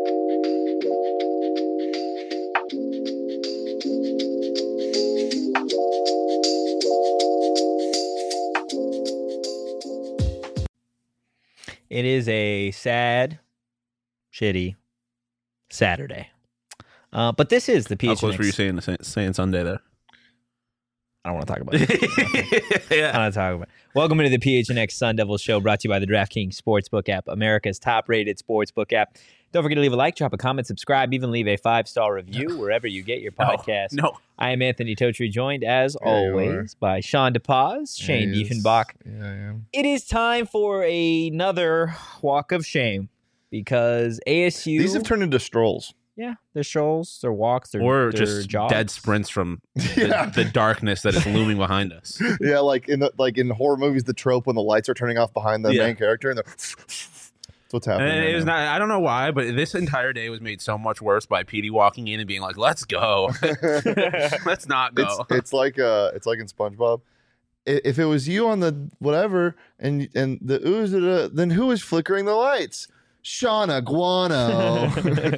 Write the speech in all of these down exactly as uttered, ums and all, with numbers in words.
It is a sad, shitty Saturday. Uh, but this is the P H N X. How close were you saying, saying Sunday there? I don't want to talk about it. yeah. I don't want to talk about it. Welcome into the P H N X Sun Devil Show, brought to you by the DraftKings Sportsbook app, America's top-rated sportsbook app. Don't forget to leave a like, drop a comment, subscribe, even leave a five-star review wherever you get your podcast. No. no. I am Anthony Totri, joined, as Yeah, always, by Sean DePaz, Shane Yes. Diefenbach. Yeah, I am. It is time for another walk of shame because A S U... These have turned into strolls. Yeah, they're strolls, they're walks, they're, Or they're just jogs. dead sprints from the, Yeah. the darkness that is looming behind us. Yeah, like in the, like in horror movies, the trope when the lights are turning off behind the Yeah. main character, and they're that's what's happening. And right it was now. not. I don't know why, but this entire day was made so much worse by Petey walking in and being like, "Let's go, let's not it's go." it's like uh, it's like in SpongeBob. I- If it was you on the whatever and and the ooze, uh, then who is flickering the lights? Shauna Guano.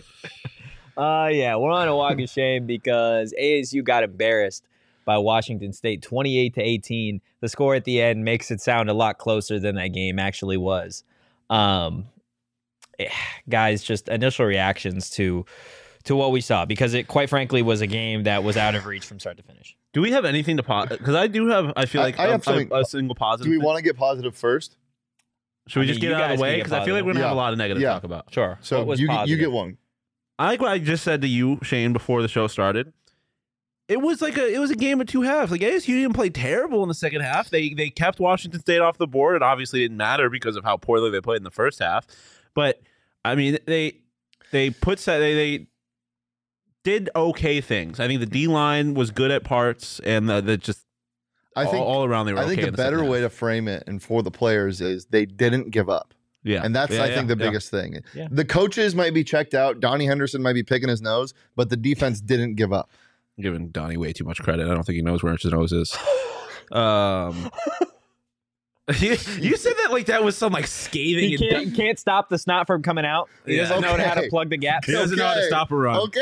Uh, yeah, we're on a walk of shame because A S U got embarrassed by Washington State twenty-eight to eighteen. The score at the end makes it sound a lot closer than that game actually was. Um, eh, guys, just initial reactions to to what we saw, because it quite frankly was a game that was out of reach from start to finish. Do we have anything to pause? Because I do have. I feel I- like I a, have something- a, a single positive. Do we thing. want to get positive first? Should we I just mean, get you it out guys of the can way? get Because I feel like we're gonna have a Yeah. lot of negative Yeah. to talk about. Sure. So what was you, you positive? get one. I like what I just said to you, Shane, before the show started. It was like a it was a game of two halves. Like A S U didn't play terrible in the second half. They they kept Washington State off the board. It obviously didn't matter because of how poorly they played in the first half. But I mean, they they put they they did okay things. I think the D line was good at parts, and the, the just I think all, all around they were. I think okay a in the better second way half. to frame it and for the players is they didn't give up. yeah, And that's, Yeah, I yeah, think, the yeah. biggest thing. Yeah. The coaches might be checked out. Donnie Henderson might be picking his nose, but the defense didn't give up. I'm giving Donnie way too much credit. I don't think he knows where his nose is. Um, you, you said that like that was some like scathing. He and can't, can't stop the snot from coming out. He Yeah. doesn't know how to Okay. plug the gap. He doesn't know how to Okay. stop a run. Okay.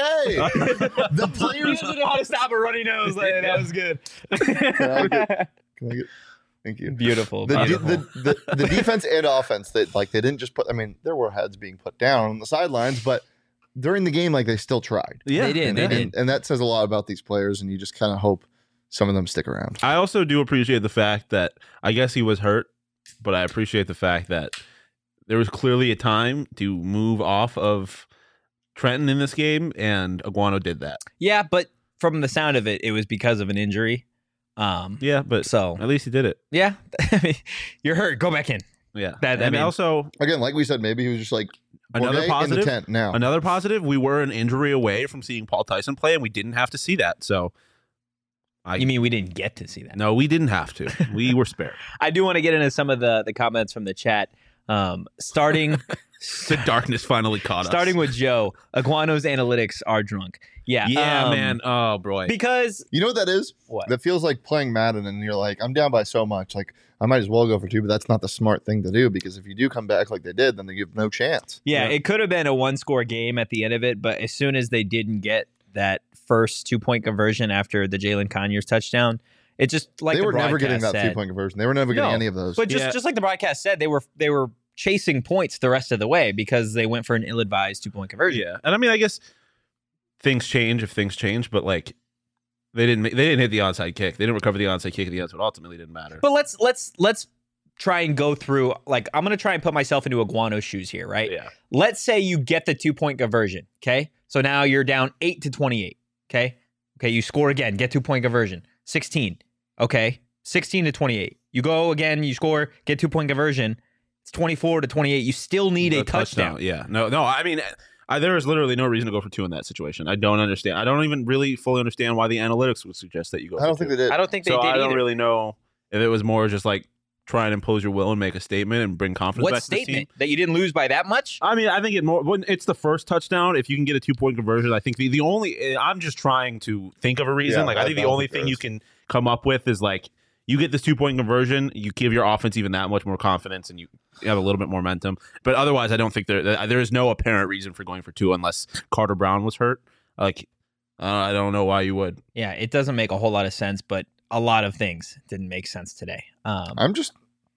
the He players. doesn't know how to stop a runny nose. Like, that was good. Can I get- Can I get, thank you. Beautiful. The, de- beautiful. the, the, the defense and offense, that like they didn't just put. I mean, there were heads being put down on the sidelines, but during the game, like they still tried. Yeah, They did, and, they and, did. and that says a lot about these players, and you just kind of hope some of them stick around. I also do appreciate the fact that I guess he was hurt, but I appreciate the fact that there was clearly a time to move off of Trenton in this game, and Aguano did that. Yeah, but from the sound of it, it was because of an injury. Um, Yeah, but so at least he did it. yeah, you're hurt. Go back in. Yeah, That- I and mean- also Again, like we said, maybe he was just like another "Okay, positive. in the tent now. Another positive. We were an injury away from seeing Paul Tyson play, and we didn't have to see that. So, I You mean we didn't get to see that? no, we didn't have to. We were spared. I do want to get into some of the the comments from the chat. Um, starting The darkness finally caught us. starting with Joe. Aguano's analytics are drunk. Yeah, yeah, um, man. Oh, boy. Because You know what that is? what? That feels like playing Madden, and you're like, I'm down by so much. Like, I might as well go for two, but that's not the smart thing to do, because if you do come back like they did, then they give no chance. Yeah, Yeah. it could have been a one score game at the end of it, but as soon as they didn't get that first two point conversion after the Jalen Conyers touchdown, it just like they the were never getting broadcast that said- two point conversion. They were never getting No, any of those. But just Yeah. just like the broadcast said, they were they were chasing points the rest of the way because they went for an ill-advised two point conversion. Yeah, and I mean, I guess things change if things change, but like they didn't. They didn't hit the onside kick. They didn't recover the onside kick at the end, so it ultimately didn't matter. But let's let's let's try and go through, like, I'm gonna try and put myself into Aguano's shoes here, right? yeah, Let's say you get the two point conversion. Okay, so now you're down eight to twenty-eight. Okay, okay, you score again, get two point conversion, sixteen. Okay, sixteen to twenty-eight. You go again, you score, get two point conversion. It's twenty-four to twenty-eight. You still need a, touchdown. Yeah, no, no. I mean, I, there is literally no reason to go for two in that situation. I don't understand. I don't even really fully understand why the analytics would suggest that you go. I don't for think two. they did. I don't think they so did I don't either. really know if it was more just like try and impose your will and make a statement and bring confidence What back to the team. statement? That you didn't lose by that much? I mean, I think it more when it's the first touchdown. If you can get a two point conversion, I think the, the only I'm just trying to think of a reason. Yeah, like I I- think I the don't only think there thing you is. can come up with is like you get this two point conversion, you give your offense even that much more confidence, and you have a little bit more momentum. But otherwise, I don't think there there is no apparent reason for going for two unless Carter Brown was hurt. Like, uh, I don't know why you would. Yeah, it doesn't make a whole lot of sense, but a lot of things didn't make sense today. Um, I'm just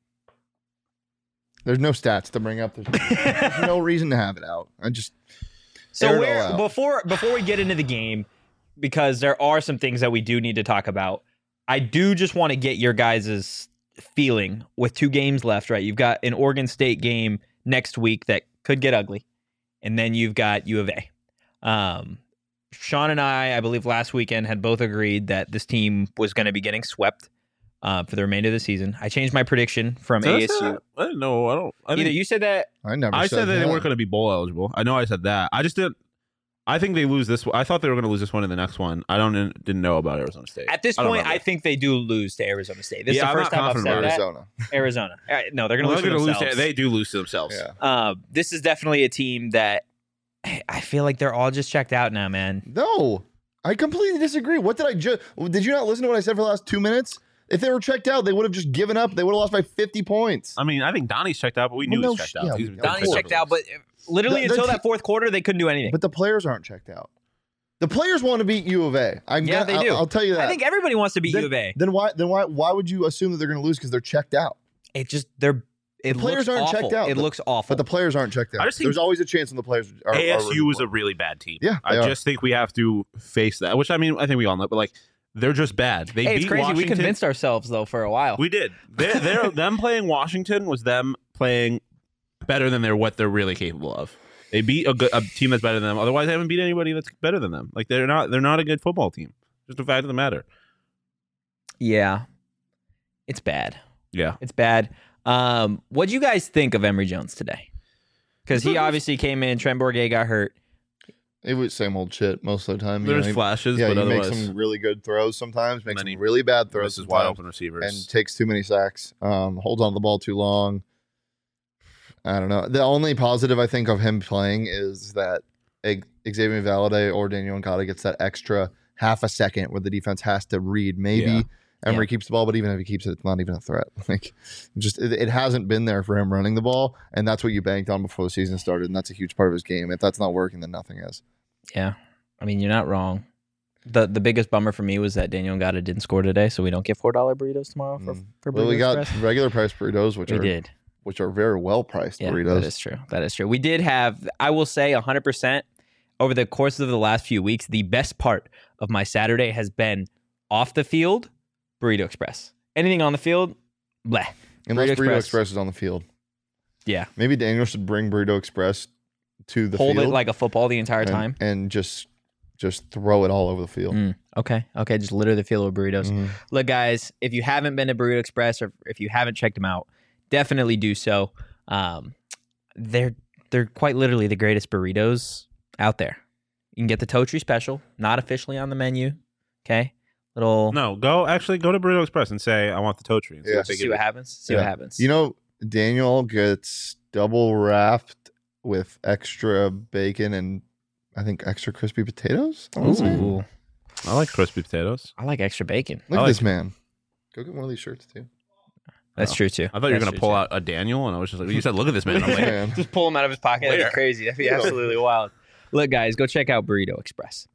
there's no stats to bring up. There's, there's no reason to have it out. I just so air it where all out. before before we get into the game, because there are some things that we do need to talk about. I do just want to get your guys' feeling with two games left, right? You've got an Oregon State game next week that could get ugly, and then you've got U of A. Um, Sean and I, I believe last weekend, had both agreed that this team was going to be getting swept uh, for the remainder of the season. I changed my prediction from Did I A S say U. that? I didn't know. I don't. I Either didn't- you said that. I never. I said that they that. weren't going to be bowl eligible. I know I said that. I just didn't. I think they lose this one. I thought they were going to lose this one in the next one. I don't didn't know about Arizona State. At this I don't point, remember. I think they do lose to Arizona State. This Yeah, is I'm the first not time I've confident said about that. Arizona. Arizona. All right, no, they're going to Well, lose they're to gonna lose themselves. to- They do lose to themselves. Yeah. Uh, this is definitely a team that I feel like they're all just checked out now, man. No, I completely disagree. What did I just? Did you not listen to what I said for the last two minutes? If they were checked out, they would have just given up. They would have lost by fifty points. I mean, I think Donnie's checked out, but we Well, knew no he was checked sh- out. yeah, He's we- been Donnie's course. checked out, but literally The- the until te- that fourth quarter, they couldn't do anything. But the players aren't checked out. The players want to beat U of A. I'm Yeah, gonna, they I'll- do. I'll, tell you that. I think everybody wants to beat then, U of A. Then why? Then why? Why would you assume that they're going to lose because they're checked out? It just they're it The players looks aren't awful. checked out, It but- looks awful. But the players aren't checked out. I just think- There's always a chance when the players are. A S U are is a really bad team. Yeah, I they are. just think we have to face that. Which I mean, I think we all know, but like they're just bad. They hey, beat it's crazy. Washington. We convinced ourselves though for a while. We did. They're, they're them playing Washington was them playing better than they're what they're really capable of. They beat a, good, a team that's better than them. Otherwise, they haven't beat anybody that's better than them. Like they're not. They're not a good football team. Just a fact of the matter. yeah, it's bad. Yeah. It's bad. Um, what do you guys think of Emory Jones today? Because he There's- obviously came in. Trent Bourget got hurt. It was same old shit most of the time. You There's know, he- flashes, yeah, but he makes otherwise, some really good throws sometimes, makes Many- some really bad throws this is wide sometimes, open receivers. and takes too many sacks. Um, holds on to the ball too long. I don't know. The only positive I think of him playing is that Ig- Xavier Valade or Daniel Ngata gets that extra half a second where the defense has to read. Maybe Yeah. Emory Yeah. keeps the ball, but even if he keeps it, it's not even a threat. Like, just it, it hasn't been there for him running the ball, and that's what you banked on before the season started, and that's a huge part of his game. If that's not working, then nothing is. Yeah, I mean you're not wrong. the The biggest bummer for me was that Daniel Ngata didn't score today, so we don't get four dollar burritos tomorrow for Mm. for Well, Burrito we got Express. regular price burritos, which We are did. which are very well priced Yeah, burritos. that is true. That is true. We did have, I will say, one hundred percent over the course of the last few weeks, the best part of my Saturday has been off the field, Burrito Express. Anything on the field, bleh. Unless Burrito Burrito Express. Express. is on the field. Yeah. Maybe Daniel should bring Burrito Express to the Hold field it like a football the entire and, time. and just just throw it all over the field. Mm, okay. Okay. Just litter the field with burritos. Mhm. Look, guys, if you haven't been to Burrito Express or if you haven't checked them out, definitely do so. Um, they're they're quite literally the greatest burritos out there. You can get the Totri special, not officially on the menu. Okay, little no, go actually go to Burrito Express and say I want the Totri. And see Yeah. what they see give what you. happens. See Yeah. what happens. You know, Daniel gets double wrapped with extra bacon and I think extra crispy potatoes. I wanna say. Ooh, I like crispy potatoes. I like extra bacon. Look I at like- this man. Go get one of these shirts too. That's Oh. true too. I thought you were That's gonna true, pull too. out a Daniel, and I was just like, you said, look at this man. I'm like, Man. Just pull him out of his pocket. That'd Where? be crazy. That'd be Yeah. absolutely wild. Look, guys, go check out Burrito Express.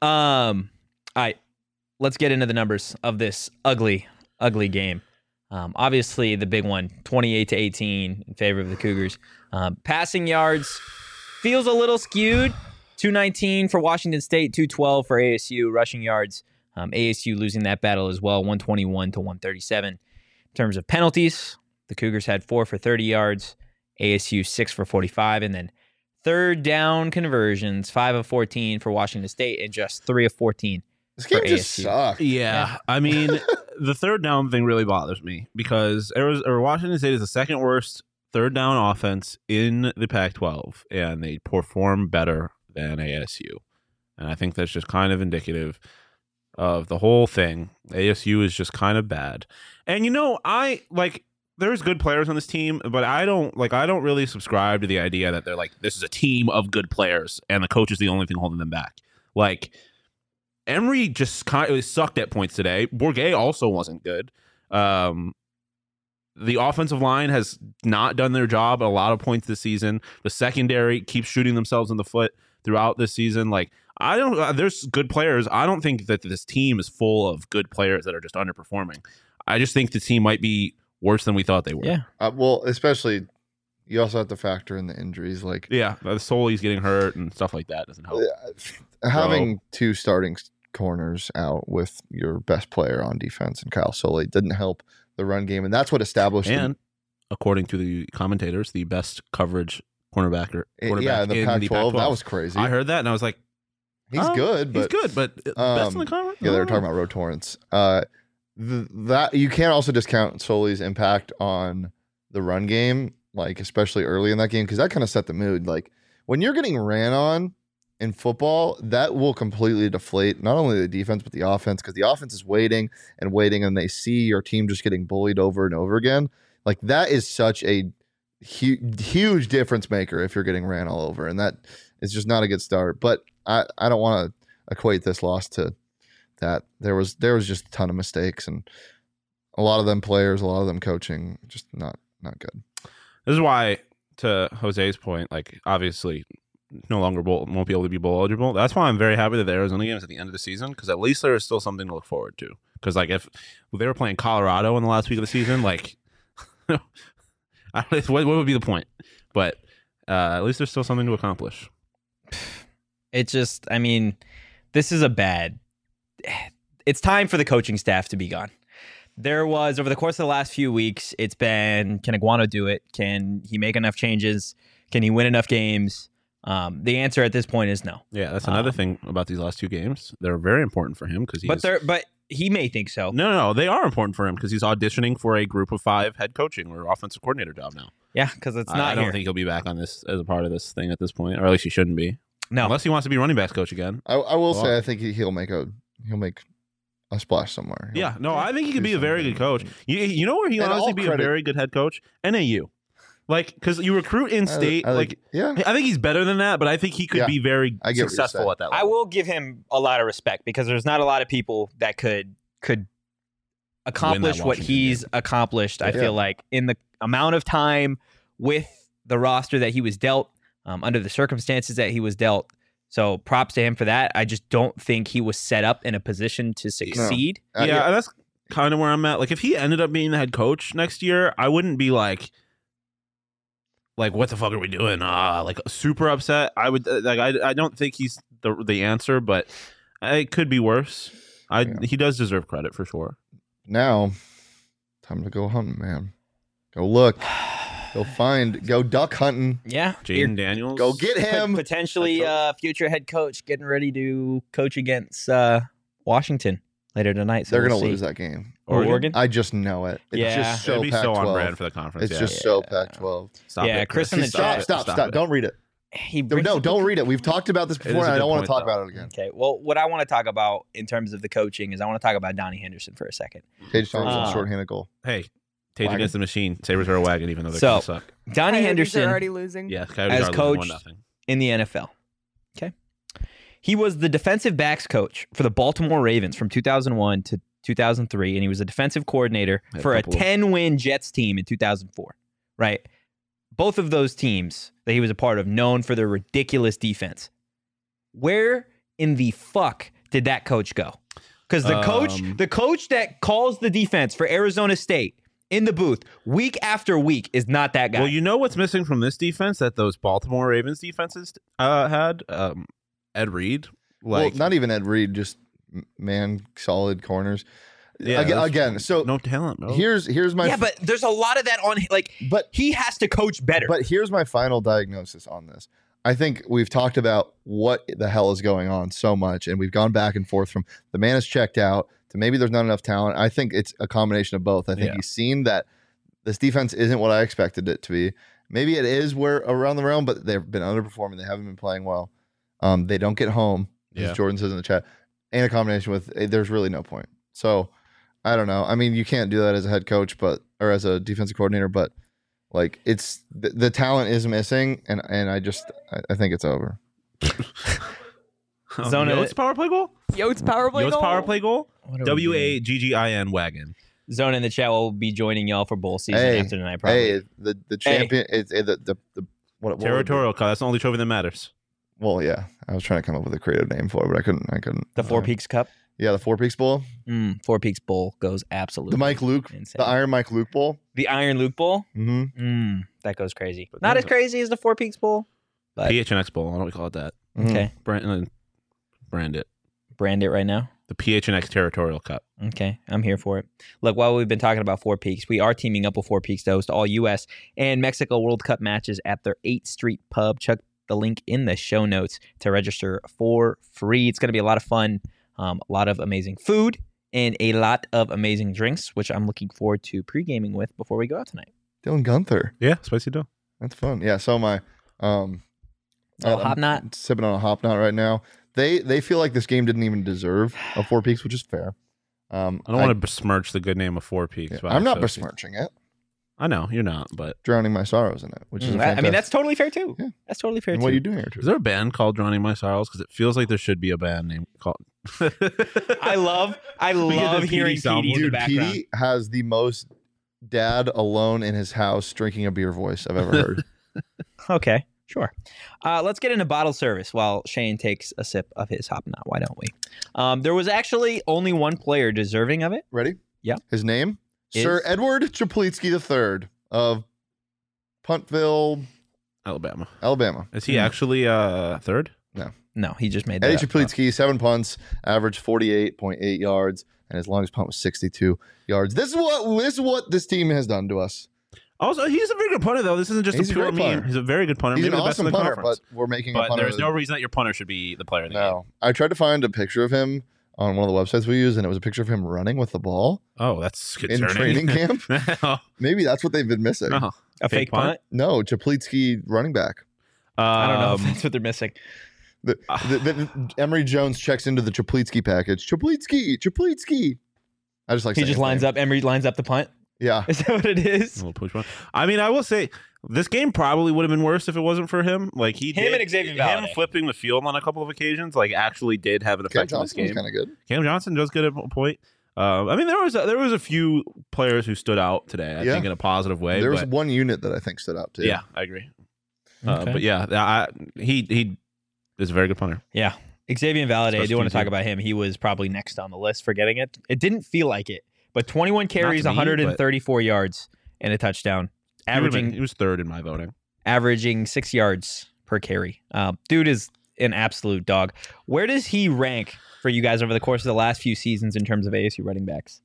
Um, all right, let's get into the numbers of this ugly, ugly game. Um, obviously, the big one, twenty-eight to eighteen in favor of the Cougars. Um, passing yards feels a little skewed. two nineteen for Washington State, two twelve for A S U. Rushing yards, um, A S U losing that battle as well, one twenty-one to one thirty-seven. In terms of penalties, the Cougars had four for thirty yards, A S U six for forty-five, and then third down conversions, five of fourteen for Washington State and just three of fourteen. This game For just A S U. sucked. yeah. Yeah. I mean, the third down thing really bothers me because Arizona, or Washington State is the second worst third down offense in the Pac twelve, and they perform better than A S U. And I think that's just kind of indicative of the whole thing. A S U is just kind of bad. And you know, I like there's good players on this team, but I don't like I don't really subscribe to the idea that they're like this is a team of good players and the coach is the only thing holding them back. Like Emory just kind of sucked at points today. Bourget also wasn't good. Um, the offensive line has not done their job at a lot of points this season. The secondary keeps shooting themselves in the foot throughout this season. Like, I don't, uh, there's good players. I don't think that this team is full of good players that are just underperforming. I just think the team might be worse than we thought they were. Yeah. Uh, well, especially you also have to factor in the injuries. Like, Yeah. The Soli's getting hurt and stuff like that doesn't help. having two starting corners out with your best player on defense and Kyle Soley didn't help the run game, and that's what established. And according to the commentators, the best coverage cornerback or the, quarterback yeah, in the in Pac the twelve. Pac twelve. That was crazy. I heard that and I was like, he's oh, good, but he's good, but uh, best in the um, conference. yeah, they were talking about Ro Torrance. Uh, th- that you can't also discount Soley's impact on the run game, like especially early in that game, because that kind of set the mood. Like when you're getting ran on in football, that will completely deflate not only the defense but the offense, because the offense is waiting and waiting, and they see your team just getting bullied over and over again. Like that is such a hu- huge difference maker if you're getting ran all over, and that is just not a good start. But I, I don't want to equate this loss to that. There was there was just a ton of mistakes, and a lot of them players, a lot of them coaching, just not not good. This is why, to Jose's point, like obviously no longer bowl, won't be able to be bowl eligible. That's why I'm very happy that the Arizona game is at the end of the season, because at least there is still something to look forward to. Because like if they were playing Colorado in the last week of the season, like I don't know, what, what would be the point? But uh, at least there's still something to accomplish. It just, I mean, this is a bad. It's time for the coaching staff to be gone. There was, over the course of the last few weeks, it's been, can Iguano do it? Can he make enough changes? Can he win enough games? Um, the answer at this point is no. Yeah, that's another Um, thing about these last two games. They're very important for him because he's. But they're, but he may think so. No, no, no, they are important for him because he's auditioning for a group of five head coaching or offensive coordinator job now. Yeah, because it's I- not I don't here. think he'll be back on this as a part of this thing at this point, or at least he shouldn't be. No. Unless he wants to be running backs coach again. I, I will Well, say I think he, he'll make a he'll make a splash somewhere. He'll- Yeah, no, I think he could do be a very good something. coach. You, you know where he And honestly all be credit- a very good head coach? N A U. Like, because you recruit in I- state, I think- like, yeah, I think he's better than that, but I think he could Yeah, be very I get what you're successful saying. at that I level. will give him a lot of respect because there's not a lot of people that could could accomplish what Washington he's accomplished. I Yeah. feel like in the amount of time with the roster that he was dealt, um, under the circumstances that he was dealt. So props to him for that. I just don't think he was set up in a position to succeed. Uh, yeah, that's kind of where I'm at. Like, if he ended up being the head coach next year, I wouldn't be like, like, what the fuck are we doing? Ah, like super upset. I would like. I, I don't think he's the the answer, but it could be worse. I Yeah. he does deserve credit for sure. Now, time to go hunting, man. Go look. Go find. Go duck hunting. Yeah, Jaden Daniels, Go get Pot- him. potentially Head uh, future head coach getting ready to coach against uh, Washington later tonight. So They're we'll gonna see. lose that game. Oregon. Oregon? I just know it. It's Yeah. just so It'd be Pac so on twelve. brand for the conference. It's yeah. just so Yeah. Pac twelve. Stop Yeah, it, Chris in the Stop, chat. stop, stop. it. Don't read it. He No, brings no, up don't the- read it. We've talked about this is before, a and I good don't want point, to talk though. about it again. Okay, well, what I want to talk about in terms of the coaching is I want to talk about Donnie Henderson for a second. Tage Thompson, Uh, shorthanded goal. Hey, Tage Wagon. against the machine. Sabres are a wagon, even though they're So- going to suck. Donnie Coyotes Henderson are already losing. Yeah, Coyotes as are losing coach- one nothing. in the N F L. Okay. He was the defensive backs coach for the Baltimore Ravens from two thousand one to two thousand three, and he was a defensive coordinator Had a for a couple of- ten-win Jets team in two thousand four, right? Both of those teams that he was a part of known for their ridiculous defense. Where in the fuck did that coach go? Because the coach, Um, the coach that calls the defense for Arizona State in the booth week after week is not that guy. Well, you know what's missing from this defense that those Baltimore Ravens defenses uh, had? Um, Ed Reed. Like, well, not even Ed Reed, just m- man, solid corners. Yeah, again, that's- again, so no talent, bro. here's here's my yeah, but there's a lot of that on. Like but he has to coach better. But here's my final diagnosis on this. I think we've talked about what the hell is going on so much, and we've gone back and forth from the man is checked out to maybe there's not enough talent. I think it's a combination of both. I think Yeah. he's seen that this defense isn't what I expected it to be. Maybe it is where around the realm, but they've been underperforming. They haven't been playing well. Um, they don't get home, Yeah. as Jordan says in the chat, and a combination with eh, there's really no point. So I don't know. I mean, you can't do that as a head coach, but or as a defensive coordinator, but like it's the, the talent is missing, and and I just I, I think it's over. Um, Zona- Yotes power play goal? Yotes power play Yotes goal. power play goal? What are we W doing? A G G I N wagon. Zone in the chat will be joining y'all for bowl season Hey, after tonight. Probably. Hey, the the champion. It's it, the the, the what, what Territorial Cup. That's the only trophy that matters. Well, yeah, I was trying to come up with a creative name for it, but I couldn't. I couldn't. The Four uh, Peaks Cup. Yeah, the Four Peaks Bowl, Mm, Four Peaks Bowl goes absolutely. the Mike Luke, insane. the Iron Mike Luke Bowl. The Iron Luke Bowl. Mm-hmm. Mm, that goes crazy. But Not there's as a- crazy as the Four Peaks Bowl. But P H N X Bowl. Why don't we call it that? okay, Brand, brand it. brand it right now. The P H N X Territorial Cup. Okay, I'm here for it. Look, while we've been talking about Four Peaks, we are teaming up with Four Peaks to host all U S and Mexico World Cup matches at their eighth Street Pub. Check the link in the show notes to register for free. It's going to be a lot of fun, um, a lot of amazing food, and a lot of amazing drinks, which I'm looking forward to pre-gaming with before we go out tonight. Dylan Gunther. Yeah, spicy dough. That's fun. Yeah. So my um, Oh, I'm Hop Knot? sipping on a Hop Knot right now. They they feel like this game didn't even deserve a Four Peaks, which is fair. Um, I don't want to besmirch the good name of Four Peaks. yeah, by I'm not association. besmirching it. I know you're not, but Drowning my sorrows in it, which is Mm, a I- I mean, fantastic- that's totally fair too. Yeah. That's totally fair And too. what are you doing here? Drew? is there a band called Drowning My Sorrows? Because it feels like there should be a band name called. I love, I We get love the hearing P D soundboard. P D in the Dude, background. Petey has the most dad alone in his house drinking a beer voice I've ever heard. Okay, sure. Uh, let's get into bottle service while Shane takes a sip of his Hop Knot. Why don't we? Um, there was actually only one player deserving of it. Ready? Yeah. His name? Is- Sir Edward Chaplitsky the third of Puntville, Alabama. Alabama. Is he Hmm. actually uh third? No, he just made that. Eddie up. Chaplitsky, seven punts, averaged forty-eight point eight yards, and his longest punt was sixty-two yards. This is what this is what this team has done to us. Also, he's a very good punter, though. This isn't just He's a a pure great meme. punter. He's a very good punter. He's Maybe an the best awesome in the punter, conference. but we're making a But punter. there's no reason that your punter should be the player of the game. no. I tried to find a picture of him on one of the websites we use, and it was a picture of him running with the ball Oh, that's in concerning. training camp. no, Maybe that's what they've been missing. no. A fake, Fake punt? punt? No, Chaplitsky running back. I don't know if Um, that's what they're missing. The, the, the, Emery Jones checks into the Chaplitsky package. Chaplitsky, Chaplitsky. I just like He saying just his lines name. up. Emery lines up the punt. Yeah, Is that what it a is? little push one. I mean, I will say this game probably would have been worse if it wasn't for him. Like he Him did, and Xavier him Valade. flipping the field on a couple of occasions, like actually did have an Cam effect in this Johnson was game. kind of good. Cam Johnson does good at a point. Uh, I mean, there was a, there was a few players who stood out today. I Yeah. think in a positive way. There was but, one unit that I think stood out too. yeah, I agree. Uh, Okay. but yeah, I, he he is a very good punter. Yeah. Xavier Valade, I Special do want to teams talk unit. about him. He was probably next on the list for getting it. It didn't feel like it, but twenty-one carries, to me, one hundred thirty-four yards, and a touchdown, He would've been- averaging he was third in my voting. averaging six yards per carry. Uh, dude is an absolute dog. Where does he rank for you guys over the course of the last few seasons in terms of A S U running backs?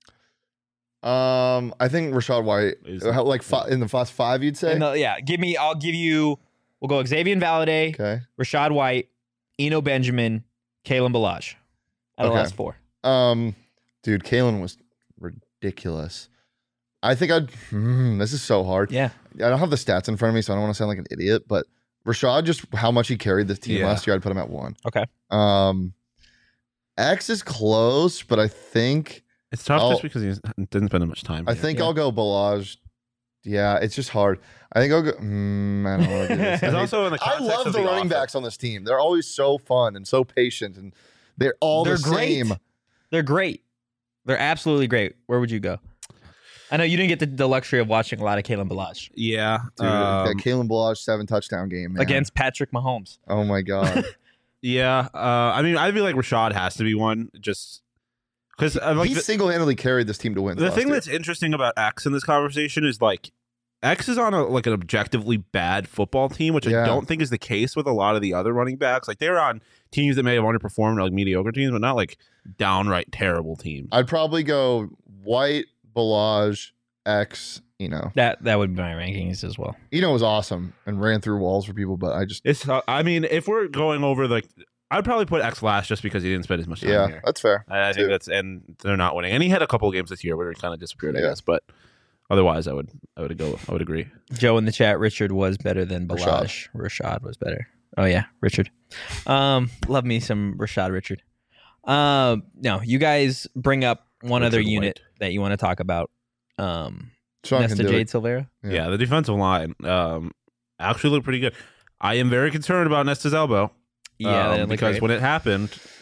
Um, I think Rashad White, Is- how, like fi- in the last five, you'd say. In the- yeah, give me. I'll give you. We'll go Xavier Valade, Okay. Rashad White, Eno Benjamin, Kalen Balaj. Out of the Okay. last four. Um, dude, Kalen was ridiculous. I think I'd. Hmm, this is so hard. Yeah. I don't have the stats in front of me, so I don't want to sound like an idiot. But Rashad, just how much he carried this team Yeah. last year, I'd put him at one. Okay. Um, X is close, but I think It's tough I'll- just because he didn't spend much time. I here. think Yeah. I'll go Balaj. Yeah, it's just hard. I think I'll go. Mm, I don't want to do this. I, It's hate- also in the I context love of the, running offense. backs on this team. They're always so fun and so patient, and they're all They're the great. same. They're great. They're absolutely great. Where would you go? I know you didn't get the, the luxury of watching a lot of Kalen Balaj Yeah, Dude, um, that Kalen Balaj seven touchdown game man. against Patrick Mahomes. Oh my god, yeah. Uh, I mean, I feel like Rashad has to be one, just because uh, like he the, single handedly carried this team to win. the last thing year. that's interesting about X in this conversation is like X is on a like an objectively bad football team, which Yeah. I don't think is the case with a lot of the other running backs. Like they're on teams that may have underperformed, like mediocre teams, but not like downright terrible teams. I'd probably go White, Balaj, X. You know, That that would be my rankings as well. Eno was awesome and ran through walls for people, but I just It's. uh, I mean, if we're going over like, I'd probably put X last just because he didn't spend as much time yeah, here. that's fair. I, I think too. that's and they're not winning. And he had a couple of games this year where he kind of disappeared, I Yeah. guess. But otherwise, I would I would go. I would agree. Joe in the chat, Richard was better than Balaj. Rashad, was better. Oh yeah, Richard. Um, love me some Rashad Richard. Um, no, you guys bring up one Richard other unit White. that you want to talk about. Um, Sean can Nesta do Jade it. Silvera. Yeah. Yeah, the defensive line um, actually looked pretty good. I am very concerned about Nesta's elbow. Yeah, um, that looked because great. when it happened,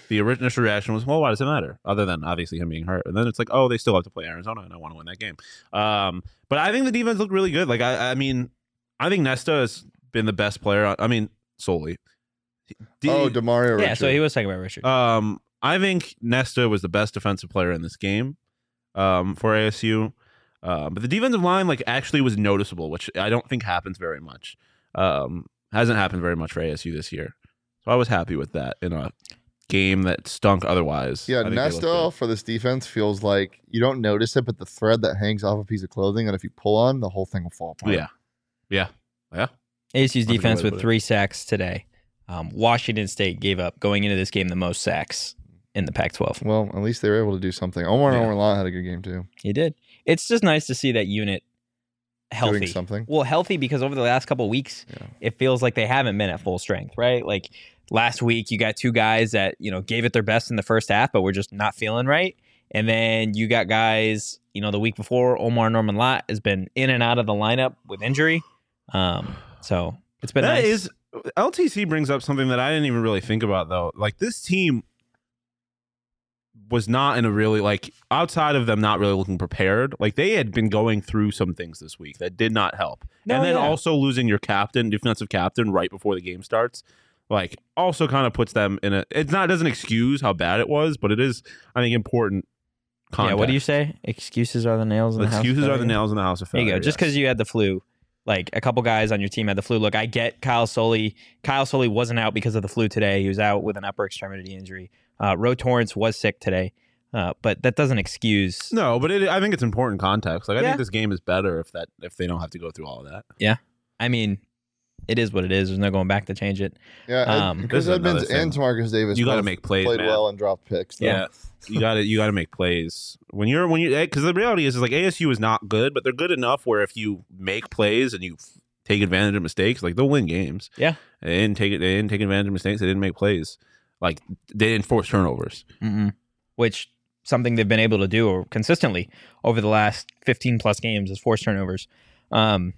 the initial reaction was, well, why does it matter? Other than obviously him being hurt. And then it's like, oh, they still have to play Arizona, and I want to win that game. Um, but I think the defense looked really good. Like, I, I mean, I think Nesta has been the best player. I mean, solely. D- oh, Demario Yeah, Richard. so he was talking about Richard. Um, I think Nesta was the best defensive player in this game um, for A S U. Uh, but the defensive line, like, actually was noticeable, which I don't think happens very much. Um, hasn't happened very much for A S U this year. So I was happy with that in a game that stunk otherwise. Yeah, I think they looked Nesta good. for this defense feels like you don't notice it, but the thread that hangs off a piece of clothing, and if you pull on, the whole thing will fall apart. Yeah. Yeah. Yeah. A S U's That's a good defense way to with put it. three sacks today. Um, Washington State gave up going into this game the most sacks in the Pac twelve. Well, at least they were able to do something. Omar Yeah. and Omar had a good game too. He did. It's just nice to see that unit healthy. Doing something. Well, healthy because over the last couple of weeks, Yeah. it feels like they haven't been at full strength, right? Like last week, you got two guys that, you know, gave it their best in the first half, but we're just not feeling right. And then you got guys, you know, the week before, Omar Norman Lott has been in and out of the lineup with injury. Um, so it's been That nice. is L T C brings up something that I didn't even really think about though. Like this team was not in a really like outside of them not really looking prepared. Like they had been going through some things this week that did not help. No, and then yeah. also losing your captain, defensive captain right before the game starts, like also kind of puts them in a it's not it doesn't excuse how bad it was, but it is I think important context. Yeah, what do you say? Excuses are the nails in the house. of Excuses are the failure? nails in the house of There failure. you go. Just yes. because you had the flu, like a couple guys on your team had the flu. Look, I get Kyle Soley. Kyle Soley wasn't out because of the flu today. He was out with an upper extremity injury. Uh, Ro Torrance was sick today, uh, but that doesn't excuse. No, but it, I think it's important context. Like I Yeah. think this game is better if that if they don't have to go through all of that. I mean, it is what it is. There's no going back to change it. Yeah, Um, Ed- Chris This is another Edmonds and thing. Tamarcus Davis. You gotta both make plays, Played man. well and dropped picks. though. Yeah, you got to you got to make plays when you're when you because the reality is is like A S U is not good, but they're good enough where if you make plays and you f- take advantage of mistakes, like they'll win games. Yeah. they didn't take it. They didn't take advantage of mistakes. They didn't make plays. Like they didn't force turnovers. Mm-mm. Which something they've been able to do consistently over the last fifteen plus games is force turnovers. Um,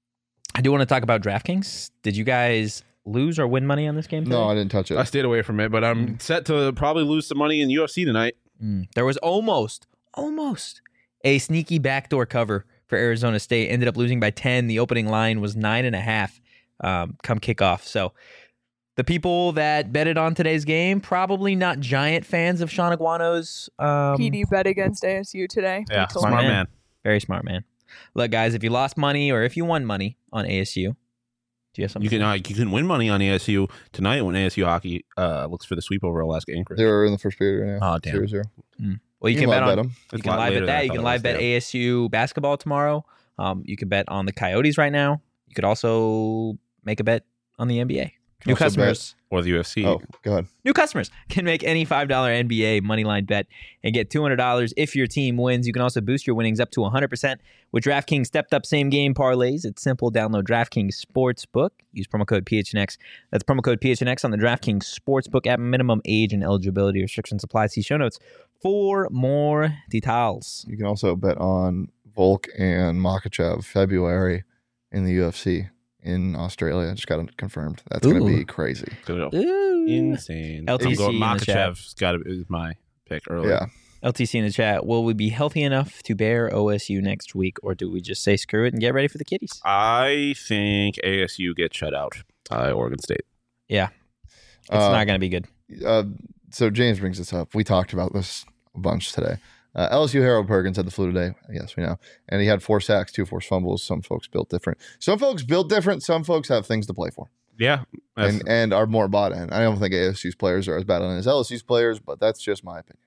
I do want to talk about DraftKings. Did you guys lose or win money on this game today? No, I didn't touch it. I stayed away from it, but I'm set to probably lose some money in U F C tonight. Mm. There was almost, almost a sneaky backdoor cover for Arizona State. Ended up losing by ten. The opening line was nine and a half um, come kickoff. So the people that betted on today's game, probably not giant fans of Sean Aguano's. Um, P D bet against A S U today. Yeah, He told smart me. man. man. Very smart, man. Look, guys, if you lost money or if you won money on A S U, do you have something? You to can say? uh, you can win money on A S U tonight when A S U hockey uh, looks for the sweep over Alaska Anchorage. They're in the first period right now. Oh, damn. Zero, zero. Well, you, You can bet live on. bet 'em. You It's can a lot live later bet than I that. You thought can it live was, bet damn. A S U basketball tomorrow. Um, you can bet on the Coyotes right now. You could also make a bet on the N B A. Can New also bet- customers. Or the U F C. Oh, go ahead. New customers can make any five dollar N B A moneyline bet and get two hundred dollars if your team wins. You can also boost your winnings up to one hundred percent with DraftKings stepped up same game parlays. It's simple. Download DraftKings Sportsbook. Use promo code P H N X. That's promo code P H N X on the DraftKings Sportsbook app. Minimum age and eligibility restrictions apply. See show notes for more details. You can also bet on Volk and Makachev February in the U F C in Australia. Just got it confirmed. That's going to Ooh. be crazy. It's gonna go Ooh. insane. L T C I'm going, in the chat. Makachev's got to is my pick early. Yeah. L T C in the chat. Will we be healthy enough to bear O S U next week, or do we just say screw it and get ready for the Kitties? I think A S U gets shut out by Oregon State. It's Uh, not going to be good. Uh, so James brings this up. We talked about this a bunch today. Uh, L S U Harold Perkins had the flu today. Yes, we know. And he had four sacks, two forced fumbles. Some folks built different. Some folks built different. Some folks have things to play for Yeah. That's- and, and are more bought in. I don't think A S U's players are as bad on as L S U's players, but that's just my opinion.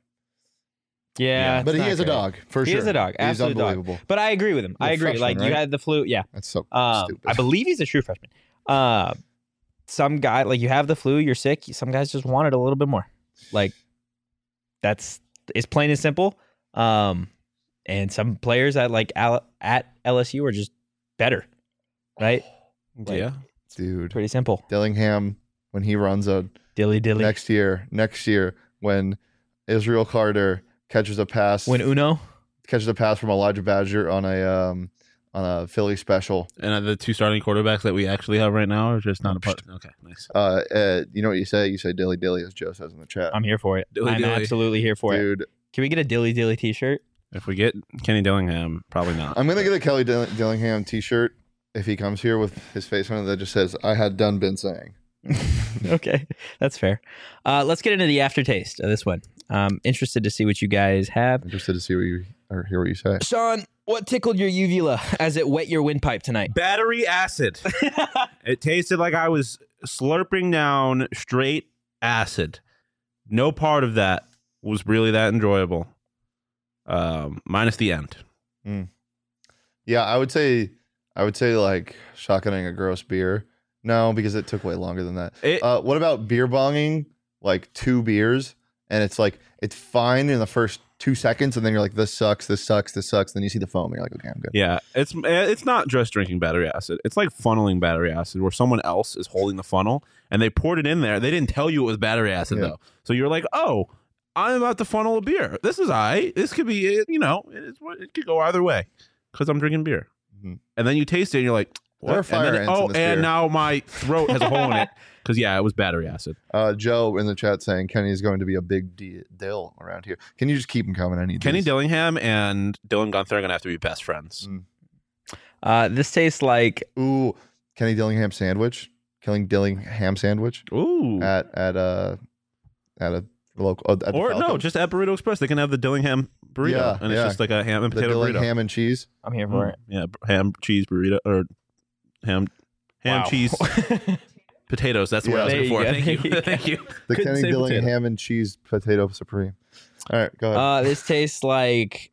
Yeah, but it's he not is a great. dog, for He sure. is a dog, He's absolute dog. unbelievable. But I agree with him. I He's a agree. freshman, Like you right? had the flu. Yeah. That's so Um, stupid. I believe he's a true freshman. Uh, some guy like you have the flu, you're sick. Some guys just want it a little bit more. Like that's it's plain and simple. Um, and some players at like Al- at L S U are just better, right? Like, yeah. Dude, Pretty simple. Dillingham, when he runs a Dilly dilly. next year, next year, when Israel Carter catches a pass, When Uno. catches a pass from Elijah Badger on a um on a Philly special. And are the two starting quarterbacks that we actually have right now are just not a part. Okay, nice. Uh, uh, you know what you say? You say dilly dilly, as Joe says in the chat. I'm here for it. Dilly I'm dilly. absolutely here for it. Dude, Can we get a Dilly Dilly t-shirt? If we get Kenny Dillingham, probably not. I'm gonna get a Kelly Dill- Dillingham T-shirt if he comes here with his face on it that just says "I had done been saying." Okay, that's fair. Uh, let's get into the aftertaste of this one. Um, interested to see what you guys have. Interested to see what you or hear what you say. Sean, what tickled your uvula as it wet your windpipe tonight? Battery acid. It tasted like I was slurping down straight acid. No part of that was really that enjoyable. Um, minus the end. Yeah, I would say, I would say like shotgunning a gross beer. No, because it took way longer than that. It, Uh, what about beer bonging? Like two beers, and it's like it's fine in the first two seconds, and then you're like, "This sucks, this sucks, this sucks." Then you see the foam, and you're like, "Okay, I'm good." yeah, it's it's not just drinking battery acid. It's like funneling battery acid, where someone else is holding the funnel and they poured it in there. They didn't tell you it was battery acid Yeah. though, so you're like, "Oh, I'm about to funnel a beer. This is I. This could be, you know, it's, it could go either way because I'm drinking beer." Mhm. And then you taste it, and you're like, "What?" There are And fire then- ants oh, in this and beer. now my throat has a hole in it because yeah, it was battery acid. Uh, Joe in the chat saying Kenny is going to be a big d- dill around here. Can you just keep him coming? I need Kenny these. Dillingham and Dylan Gunther are gonna have to be best friends. Mm. Uh, this tastes like Ooh, Kenny Dillingham sandwich. Killing Dillingham sandwich Ooh. at at a at a local. Uh, at the Or no, Falcon. just at Burrito Express, they can have the Dillingham burrito, Yeah, and it's yeah. just like a ham and the potato burrito. Dillingham and cheese. I'm here for Mm, it. yeah, b- ham cheese burrito or ham ham Wow. cheese potatoes. That's what I was There looking you for. go. Thank There you, you go. thank you. The Couldn't Kenny say Dillingham potato. and cheese potato supreme. All right, go ahead. Uh, this tastes like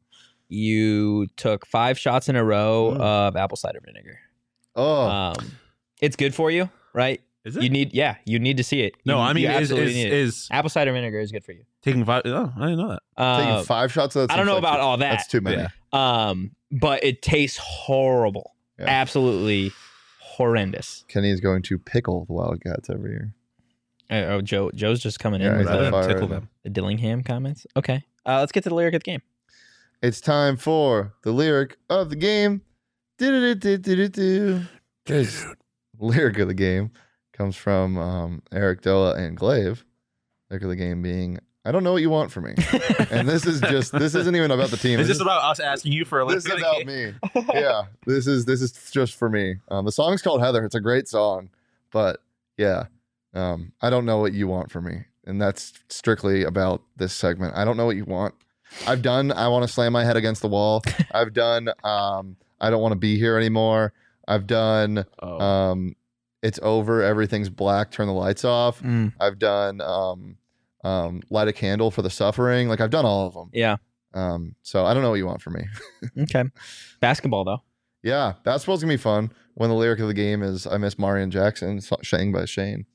you took five shots in a row Mm. of apple cider vinegar. oh, Um, it's good for you, right? Is You need, yeah, you need to see it. no, You- I mean, you is absolutely is, need it. is apple cider vinegar is good for you. taking five? Oh, I didn't know that. taking Uh, five shots of that. I don't seems know like about too- all that. That's too many. Yeah. um, but it tastes horrible. Yeah. Absolutely horrendous. Kenny is going to pickle the Wildcats every year. Uh, oh, Joe, Joe's just coming Yeah, in he's with on Rather the, fire than tickle right them. the Dillingham comments. Okay, uh, let's get to the lyric of the game. It's time for the lyric of the game. Do-do-do-do-do-do. Guys, lyric of the game comes from um, Eric Doa and Glaive. Lyric of the game being, I don't know what you want from me. And this is just, this isn't even about the team. Is This this about us asking you for a this is lyric? about me. Yeah, this is this is just for me. Um, the song's called Heather. It's a great song, but yeah, um, I don't know what you want from me, and that's strictly about this segment. I don't know what you want. I've done. I want to slam my head against the wall. I've done. Um, I don't want to be here anymore. I've done. Oh. Um, it's over. Everything's black. Turn the lights off. Mm, I've done. Um, um, light a candle for the suffering. Like I've done all of them. yeah. Um, so I don't know what you want from me. Okay. Basketball though. Yeah, basketball's gonna be fun. When the lyric of the game is "I miss Marion Jackson," so- sang by Shane.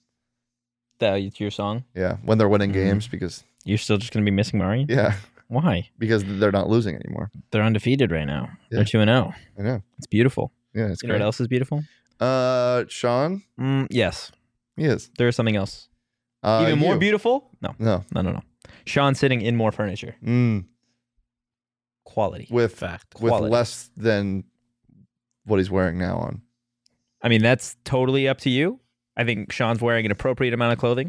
That's your song. Yeah, when they're winning Mhm. games because You're still just going to be missing Marion? yeah, Why? because they're not losing anymore. They're undefeated right now. Yeah. They're two and zero. I know. It's beautiful. Yeah, it's You know great. what else is beautiful? Uh, Sean, Mm, yes. he is There is something else. uh, Even more you. beautiful? No, No, no, no, no. Sean sitting in more furniture. mm, Quality. with Fact. with Quality. less than what he's wearing now on. I mean, that's totally up to you. I think Sean's wearing an appropriate amount of clothing.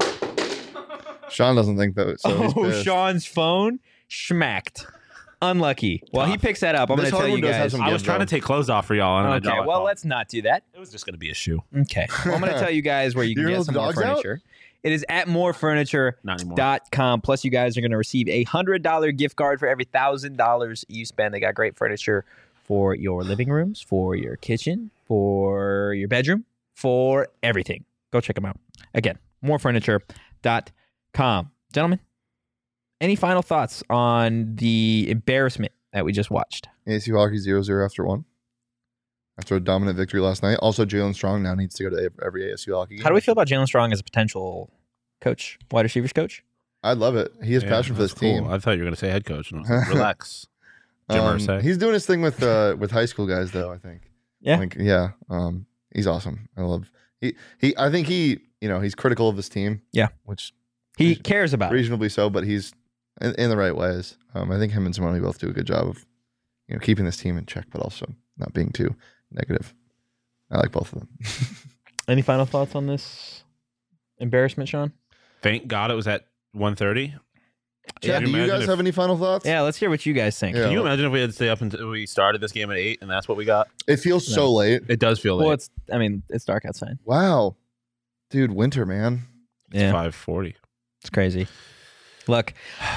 Sean doesn't think that. So he's oh, pissed. Sean's phone schmacked. Unlucky. Well, he Tough. picks that up. I'm going This to tell hardwood you does have guys. some I was give, trying though. to take clothes off for y'all. And I Okay, dropped my well, phone. let's not do that. It was just going to be a shoe. Okay. Well, I'm going to tell you guys where you can You're get gonna some let more the dogs out? furniture. It is at more furniture Not anymore. dot com. Plus, you guys are going to receive a one hundred dollars gift card for every one thousand dollars you spend. They got great furniture for your living rooms, for your kitchen, for your bedroom, for everything. Go check them out. Again, more furniture dot com. Gentlemen, any final thoughts on the embarrassment that we just watched? A S U hockey zero zero after one. After a dominant victory last night. Also, Jalen Strong now needs to go to every A S U hockey game. How do we feel about Jalen Strong as a potential coach, wide receivers coach? I love it. He has Yeah, passion for this that's cool. team. I thought you were going to say head coach. And I was like, relax. Jim Um, Irsay. he's doing his thing with uh, with high school guys, though. I think. Yeah. Like, yeah. Um, he's awesome. I love. He he. I think he. You know, he's critical of his team. Yeah. Which He cares about it. reasonably so, but he's in, in the right ways. Um, I think him and Simone both do a good job of, you know, keeping this team in check, but also not being too negative. I like both of them. Any final thoughts on this embarrassment, Sean? Thank God it was at one thirty. Chad, Can do you imagine guys if- have any final thoughts? Yeah, let's hear what you guys think. Yeah. Can you imagine if we had to stay up until we started this game at eight and that's what we got? It feels No. so late. It does feel late. Well, it's I mean, it's dark outside. Wow. Dude, winter, man. Yeah, five forty. it's crazy. Look,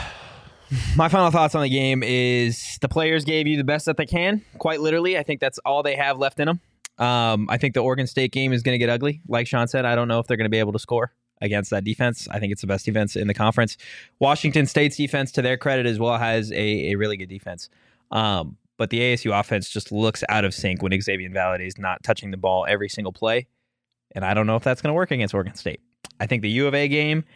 my final thoughts on the game is the players gave you the best that they can. Quite literally, I think that's all they have left in them. Um, I think the Oregon State game is going to get ugly. Like Sean said, I don't know if they're going to be able to score against that defense. I think it's the best defense in the conference. Washington State's defense, to their credit as well, has a, a really good defense. Um, but the A S U offense just looks out of sync when Xavier Valade is not touching the ball every single play. And I don't know if that's going to work against Oregon State. I think the U of A game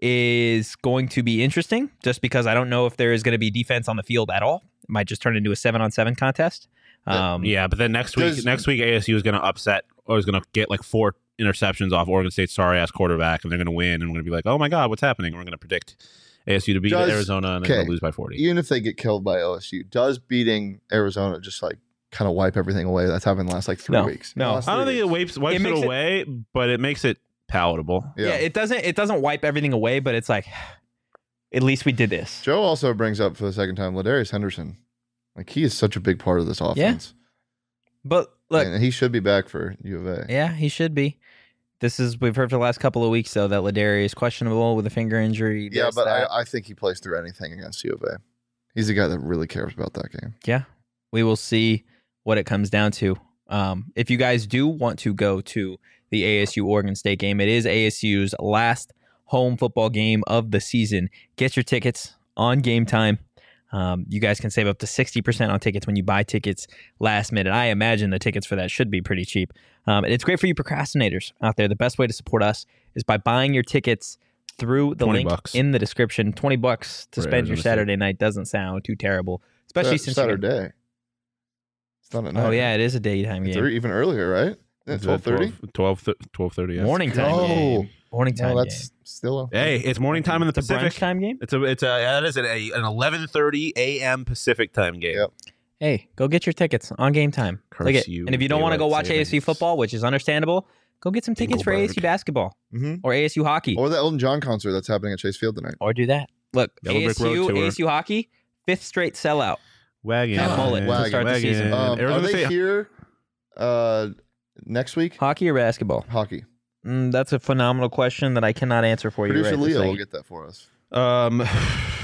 is going to be interesting just because I don't know if there is going to be defense on the field at all. It might just turn into a seven on seven contest. Um, Yeah, but then next week, Does- next week A S U is going to upset or is going to get like four interceptions off Oregon State's sorry ass quarterback, and they're going to win, and we're going to be like, oh my god, what's happening? We're going to predict A S U to beat Does- Arizona and they're going okay. to lose by forty. Even if they get killed by O S U, does beating Arizona just like kind of wipe everything away? That's happened the last like three No. weeks. No. Last I don't three think it weeks. wipes wipes It it, makes it- away, but it makes it palatable. yeah. Yeah. it doesn't it doesn't wipe everything away, but it's like at least we did this. Joe also brings up for the second time Ladarius Henderson. Like he is such a big part of this offense. But look, and he should be back for U of A. yeah, he should be. This is we've heard for the last couple of weeks though that Ladarius is questionable with a finger injury. Yeah, this, but that. I, I think he plays through anything against U of A. He's the guy that really cares about that game. yeah, we will see what it comes down to. Um, if you guys do want to go to the A S U Oregon State game, it is A S U's last home football game of the season. Get your tickets on Game Time. Um, you guys can save up to sixty percent on tickets when you buy tickets last minute. I imagine the tickets for that should be pretty cheap. Um, and it's great for you procrastinators out there. The best way to support us is by buying your tickets through the twenty link bucks. in the description. twenty bucks to For spend your Arizona State. Saturday night doesn't sound too terrible, especially Sa- since you got- Saturday. It's not at night. Oh yeah, it is a daytime It's game. even earlier, right? It's Twelve thirty. twelve, twelve thirty. Yes. Morning time Oh. game. Morning time No, that's game. still. A, Hey, it's morning time in the It's a brunch Pacific. time game. It's a it's a that is an, a, an eleven thirty a.m. Pacific time game. Yep. Hey, go get your tickets on Game Time. Curse Like it. you, And if you don't want to go daylight watch A S U savings. football, which is understandable, go get some tickets for A S U Dingleberg. basketball hmm or A S U hockey, or, Or the Elton John concert that's happening at Chase Field tonight. do that. Look, Yellow Brick Road A S U, tour. A S U hockey, fifth straight sellout. Wagon. At Mullet to Wagon, start the wagon. season. Um, are Arizona they State- here uh, next week? Hockey or basketball? Hockey. Mm, that's a phenomenal question that I cannot answer for you. Producer right this Leo will second. get that for us. Um, what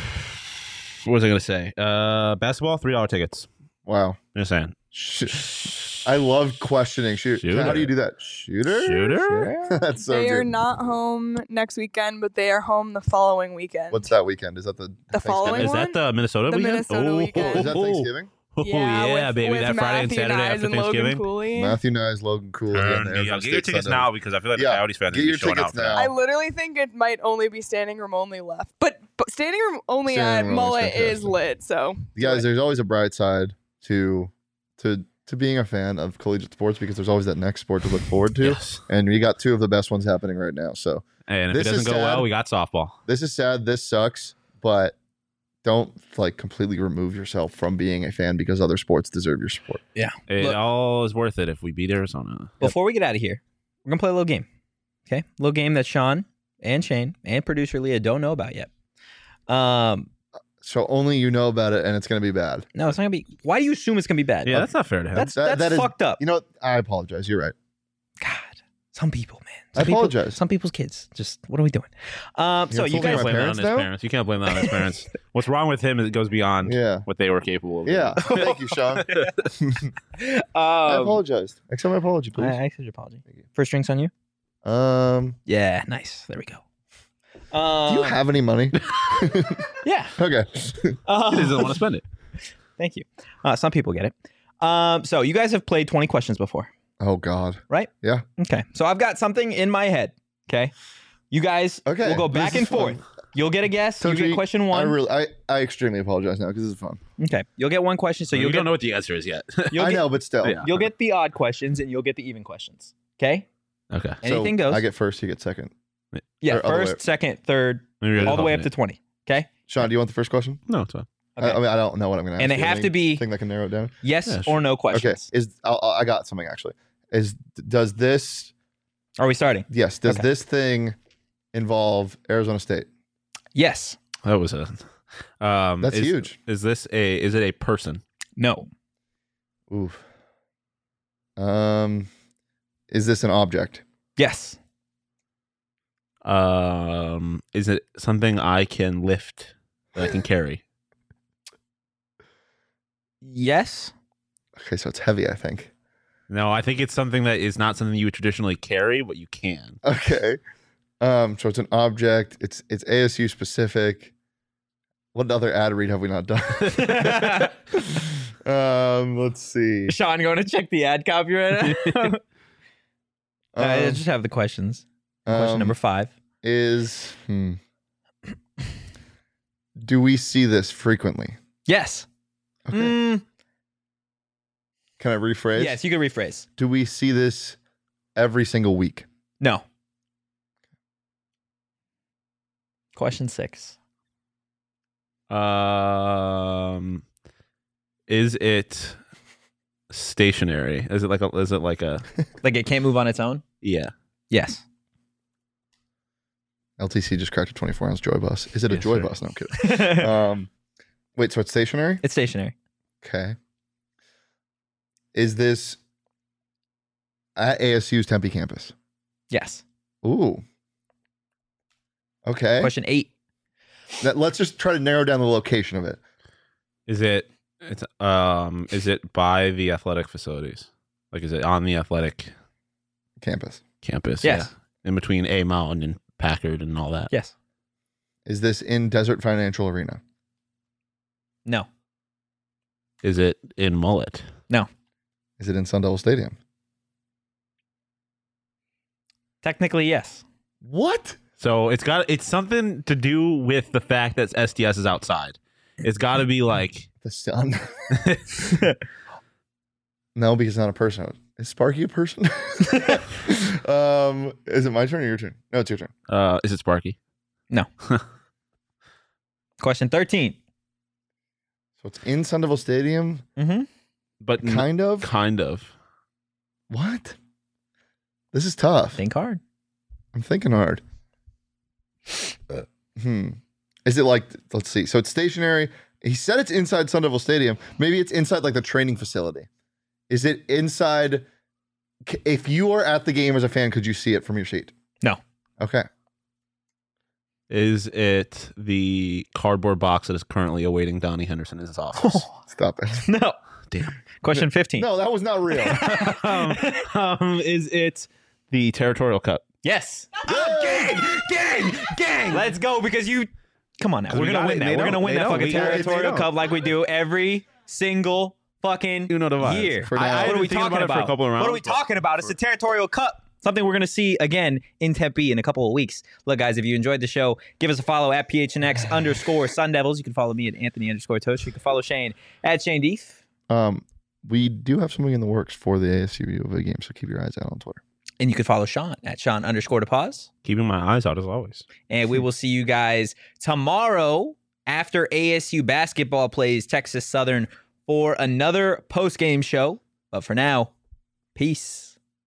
was I going to say? Uh, basketball, three dollar tickets. Wow. Just saying. Sh- I love questioning. Shoot. Shooter. How do you do that? Shooter? Shooter? That's so they are good. not home next weekend, but they are home the following weekend. What's that weekend? Is that the The following Is Thanksgiving? that the Minnesota The weekend? Minnesota oh, weekend. Is that Thanksgiving? Oh, yeah, with, baby. with that Friday and Matthew Saturday Nyes after and Logan Thanksgiving. Cooley. Matthew Nyes, Logan Cooley, and Turn me Arizona up. Get your State tickets Sunday. now because I feel like Yeah, the Coyotes fans are get going to your be showing tickets out for now. that. I literally think it might only be standing room only left, but, but standing room only Standing at room only is Mullet is fantastic. lit. So Guys, there's always a bright side to to to being a fan of collegiate sports because there's always that next sport to look forward to. Yes. And we got two of the best ones happening right now. So And if This it doesn't is go sad. well, we got softball. this is sad. This sucks, but don't like completely remove yourself from being a fan because other sports deserve your support. It Look- all is worth it if we beat Arizona. Before we get out of here, we're gonna play a little game. Okay, a little game that Sean and Shane and producer Leah don't know about yet. Um, So only you know about it, and it's going to be bad. no, it's not gonna be. Why do you assume it's gonna be bad? Yeah, that's not fair to him. that's That- that's that is- fucked up. You know, what? I apologize. You're right. God, some people, man. I Some people- apologize. Some people's kids. Just what are we doing? Um, so You're you insulting guys, my blame that parents on his now? parents. You can't blame that on his parents. What's wrong with him is it goes beyond Yeah. what they were capable of. Yeah. Thank you, Sean. I um, apologize. Accept my apology, please. I, I accept your apology. Thank you. First drinks on you. Um, Yeah, nice. There we go. Um, do you have any money? Yeah. Okay. Um, He doesn't want to spend it. Thank you. Uh, some people get it. Um, so you guys have played twenty questions before, Oh God. right? Yeah. Okay. So I've got something in my head. Okay. You guys Okay. will go this back is and fun. forth. You'll get a guess. So you get G, question I one. really, I, I extremely apologize now because this is fun. Okay. You'll get one question. So So you you'll don't get know what the answer is yet. you'll I get, know, but still. Yeah. you'll get the odd questions and you'll get the even questions. Okay. Okay. Anything so goes. I get first. You get second. yeah. or other First, way- second, third, Maybe all the way up to alternate. twenty. Okay. Sean, do you want the first question? No, it's fine. I, I mean, I don't know what I'm going to ask. And they you. have to Any be- thing that can narrow it down. Yes Yeah, or sure. no Okay, questions. is I'll, I got something actually. Is does this Are we starting? yes? Does Okay. this thing involve Arizona State? Yes. That was a. Um, That's is, huge. Is this a? Is it a person? No. Oof. Um, is this an object? Yes. Um, is it something I can lift that I can carry? Yes. Okay, so it's heavy, I think. No, I think it's something that is not something you would traditionally carry, but you can. Okay. Um, so it's an object. It's it's A S U specific. What other ad read have we not done? um, let's see. Sean, going to check the ad copy right now. I Um, just have the questions. Question um, number five. is hmm. Do we see this frequently? Yes. Okay. Mm, Can I rephrase? yes, you can rephrase. Do we see this every single week? No. Question six. Um, is it stationary? Is it like a? Is it like a? Like it can't move on its own? Yeah. Yes. L T C just cracked a twenty-four ounce Joy Bus. Is it a Yes, Joy sir. Bus? No, I'm kidding. Um, wait, so it's stationary? It's stationary. Okay. Is this at A S U's Tempe campus? Yes. Ooh. Okay. Question eight. That- let's just try to narrow down the location of it. Is it? It's um. Is it by the athletic facilities? Like, is it on the athletic Campus. campus? Yes. Yeah. In between A Mountain and Packard and all that. Yes. Is this in Desert Financial Arena? No. Is it in Mullet? Is it in Sun Devil Stadium? Technically, yes. What? So it's got. It's something to do with the fact that S D S is outside. It's got to be like. The sun? No, because it's not a person. Is Sparky a person? um, is it my turn or your turn? No, it's your turn. Uh, is it Sparky? Question thirteen. So it's in Sun Devil Stadium, Mm-hmm. But n- kind of. kind of. What? This is tough. Think hard. I'm thinking hard. Uh, hmm. Is it like, let's see. So it's stationary. He said it's inside Sun Devil Stadium. Maybe it's inside like the training facility. Is it inside? c- If you are at the game as a fan, could you see it from your seat? No. Okay. Is it the cardboard box that is currently awaiting Donnie Henderson in his office? Stop it. No. Damn. Question fifteen. No, that was not real. um, um, is it the Territorial Cup? Yes. Gang! Gang! Gang! Let's go because you. Come on now. We're We gonna got win it. that. They We're don't. gonna win They that don't. fucking We got it. They territorial don't. cup like we do every single fucking Uno divides. year. For I- now. I What are been we thinking talking about it about? for a couple of What are we rounds, but- talking about? It's the territorial cup. Something we're going to see again in Tempe in a couple of weeks. Look, guys, if you enjoyed the show, give us a follow at P H N X underscore Sun Devils. You can follow me at Anthony underscore Toast. You can follow Shane at Shane Deef. Um, we do have something in the works for the A S U U of A game, so keep your eyes out on Twitter. And you can follow Sean at Sean underscore to pause. Keeping my eyes out as always. And we will see you guys tomorrow after A S U basketball plays Texas Southern for another post-game show. But for now, peace.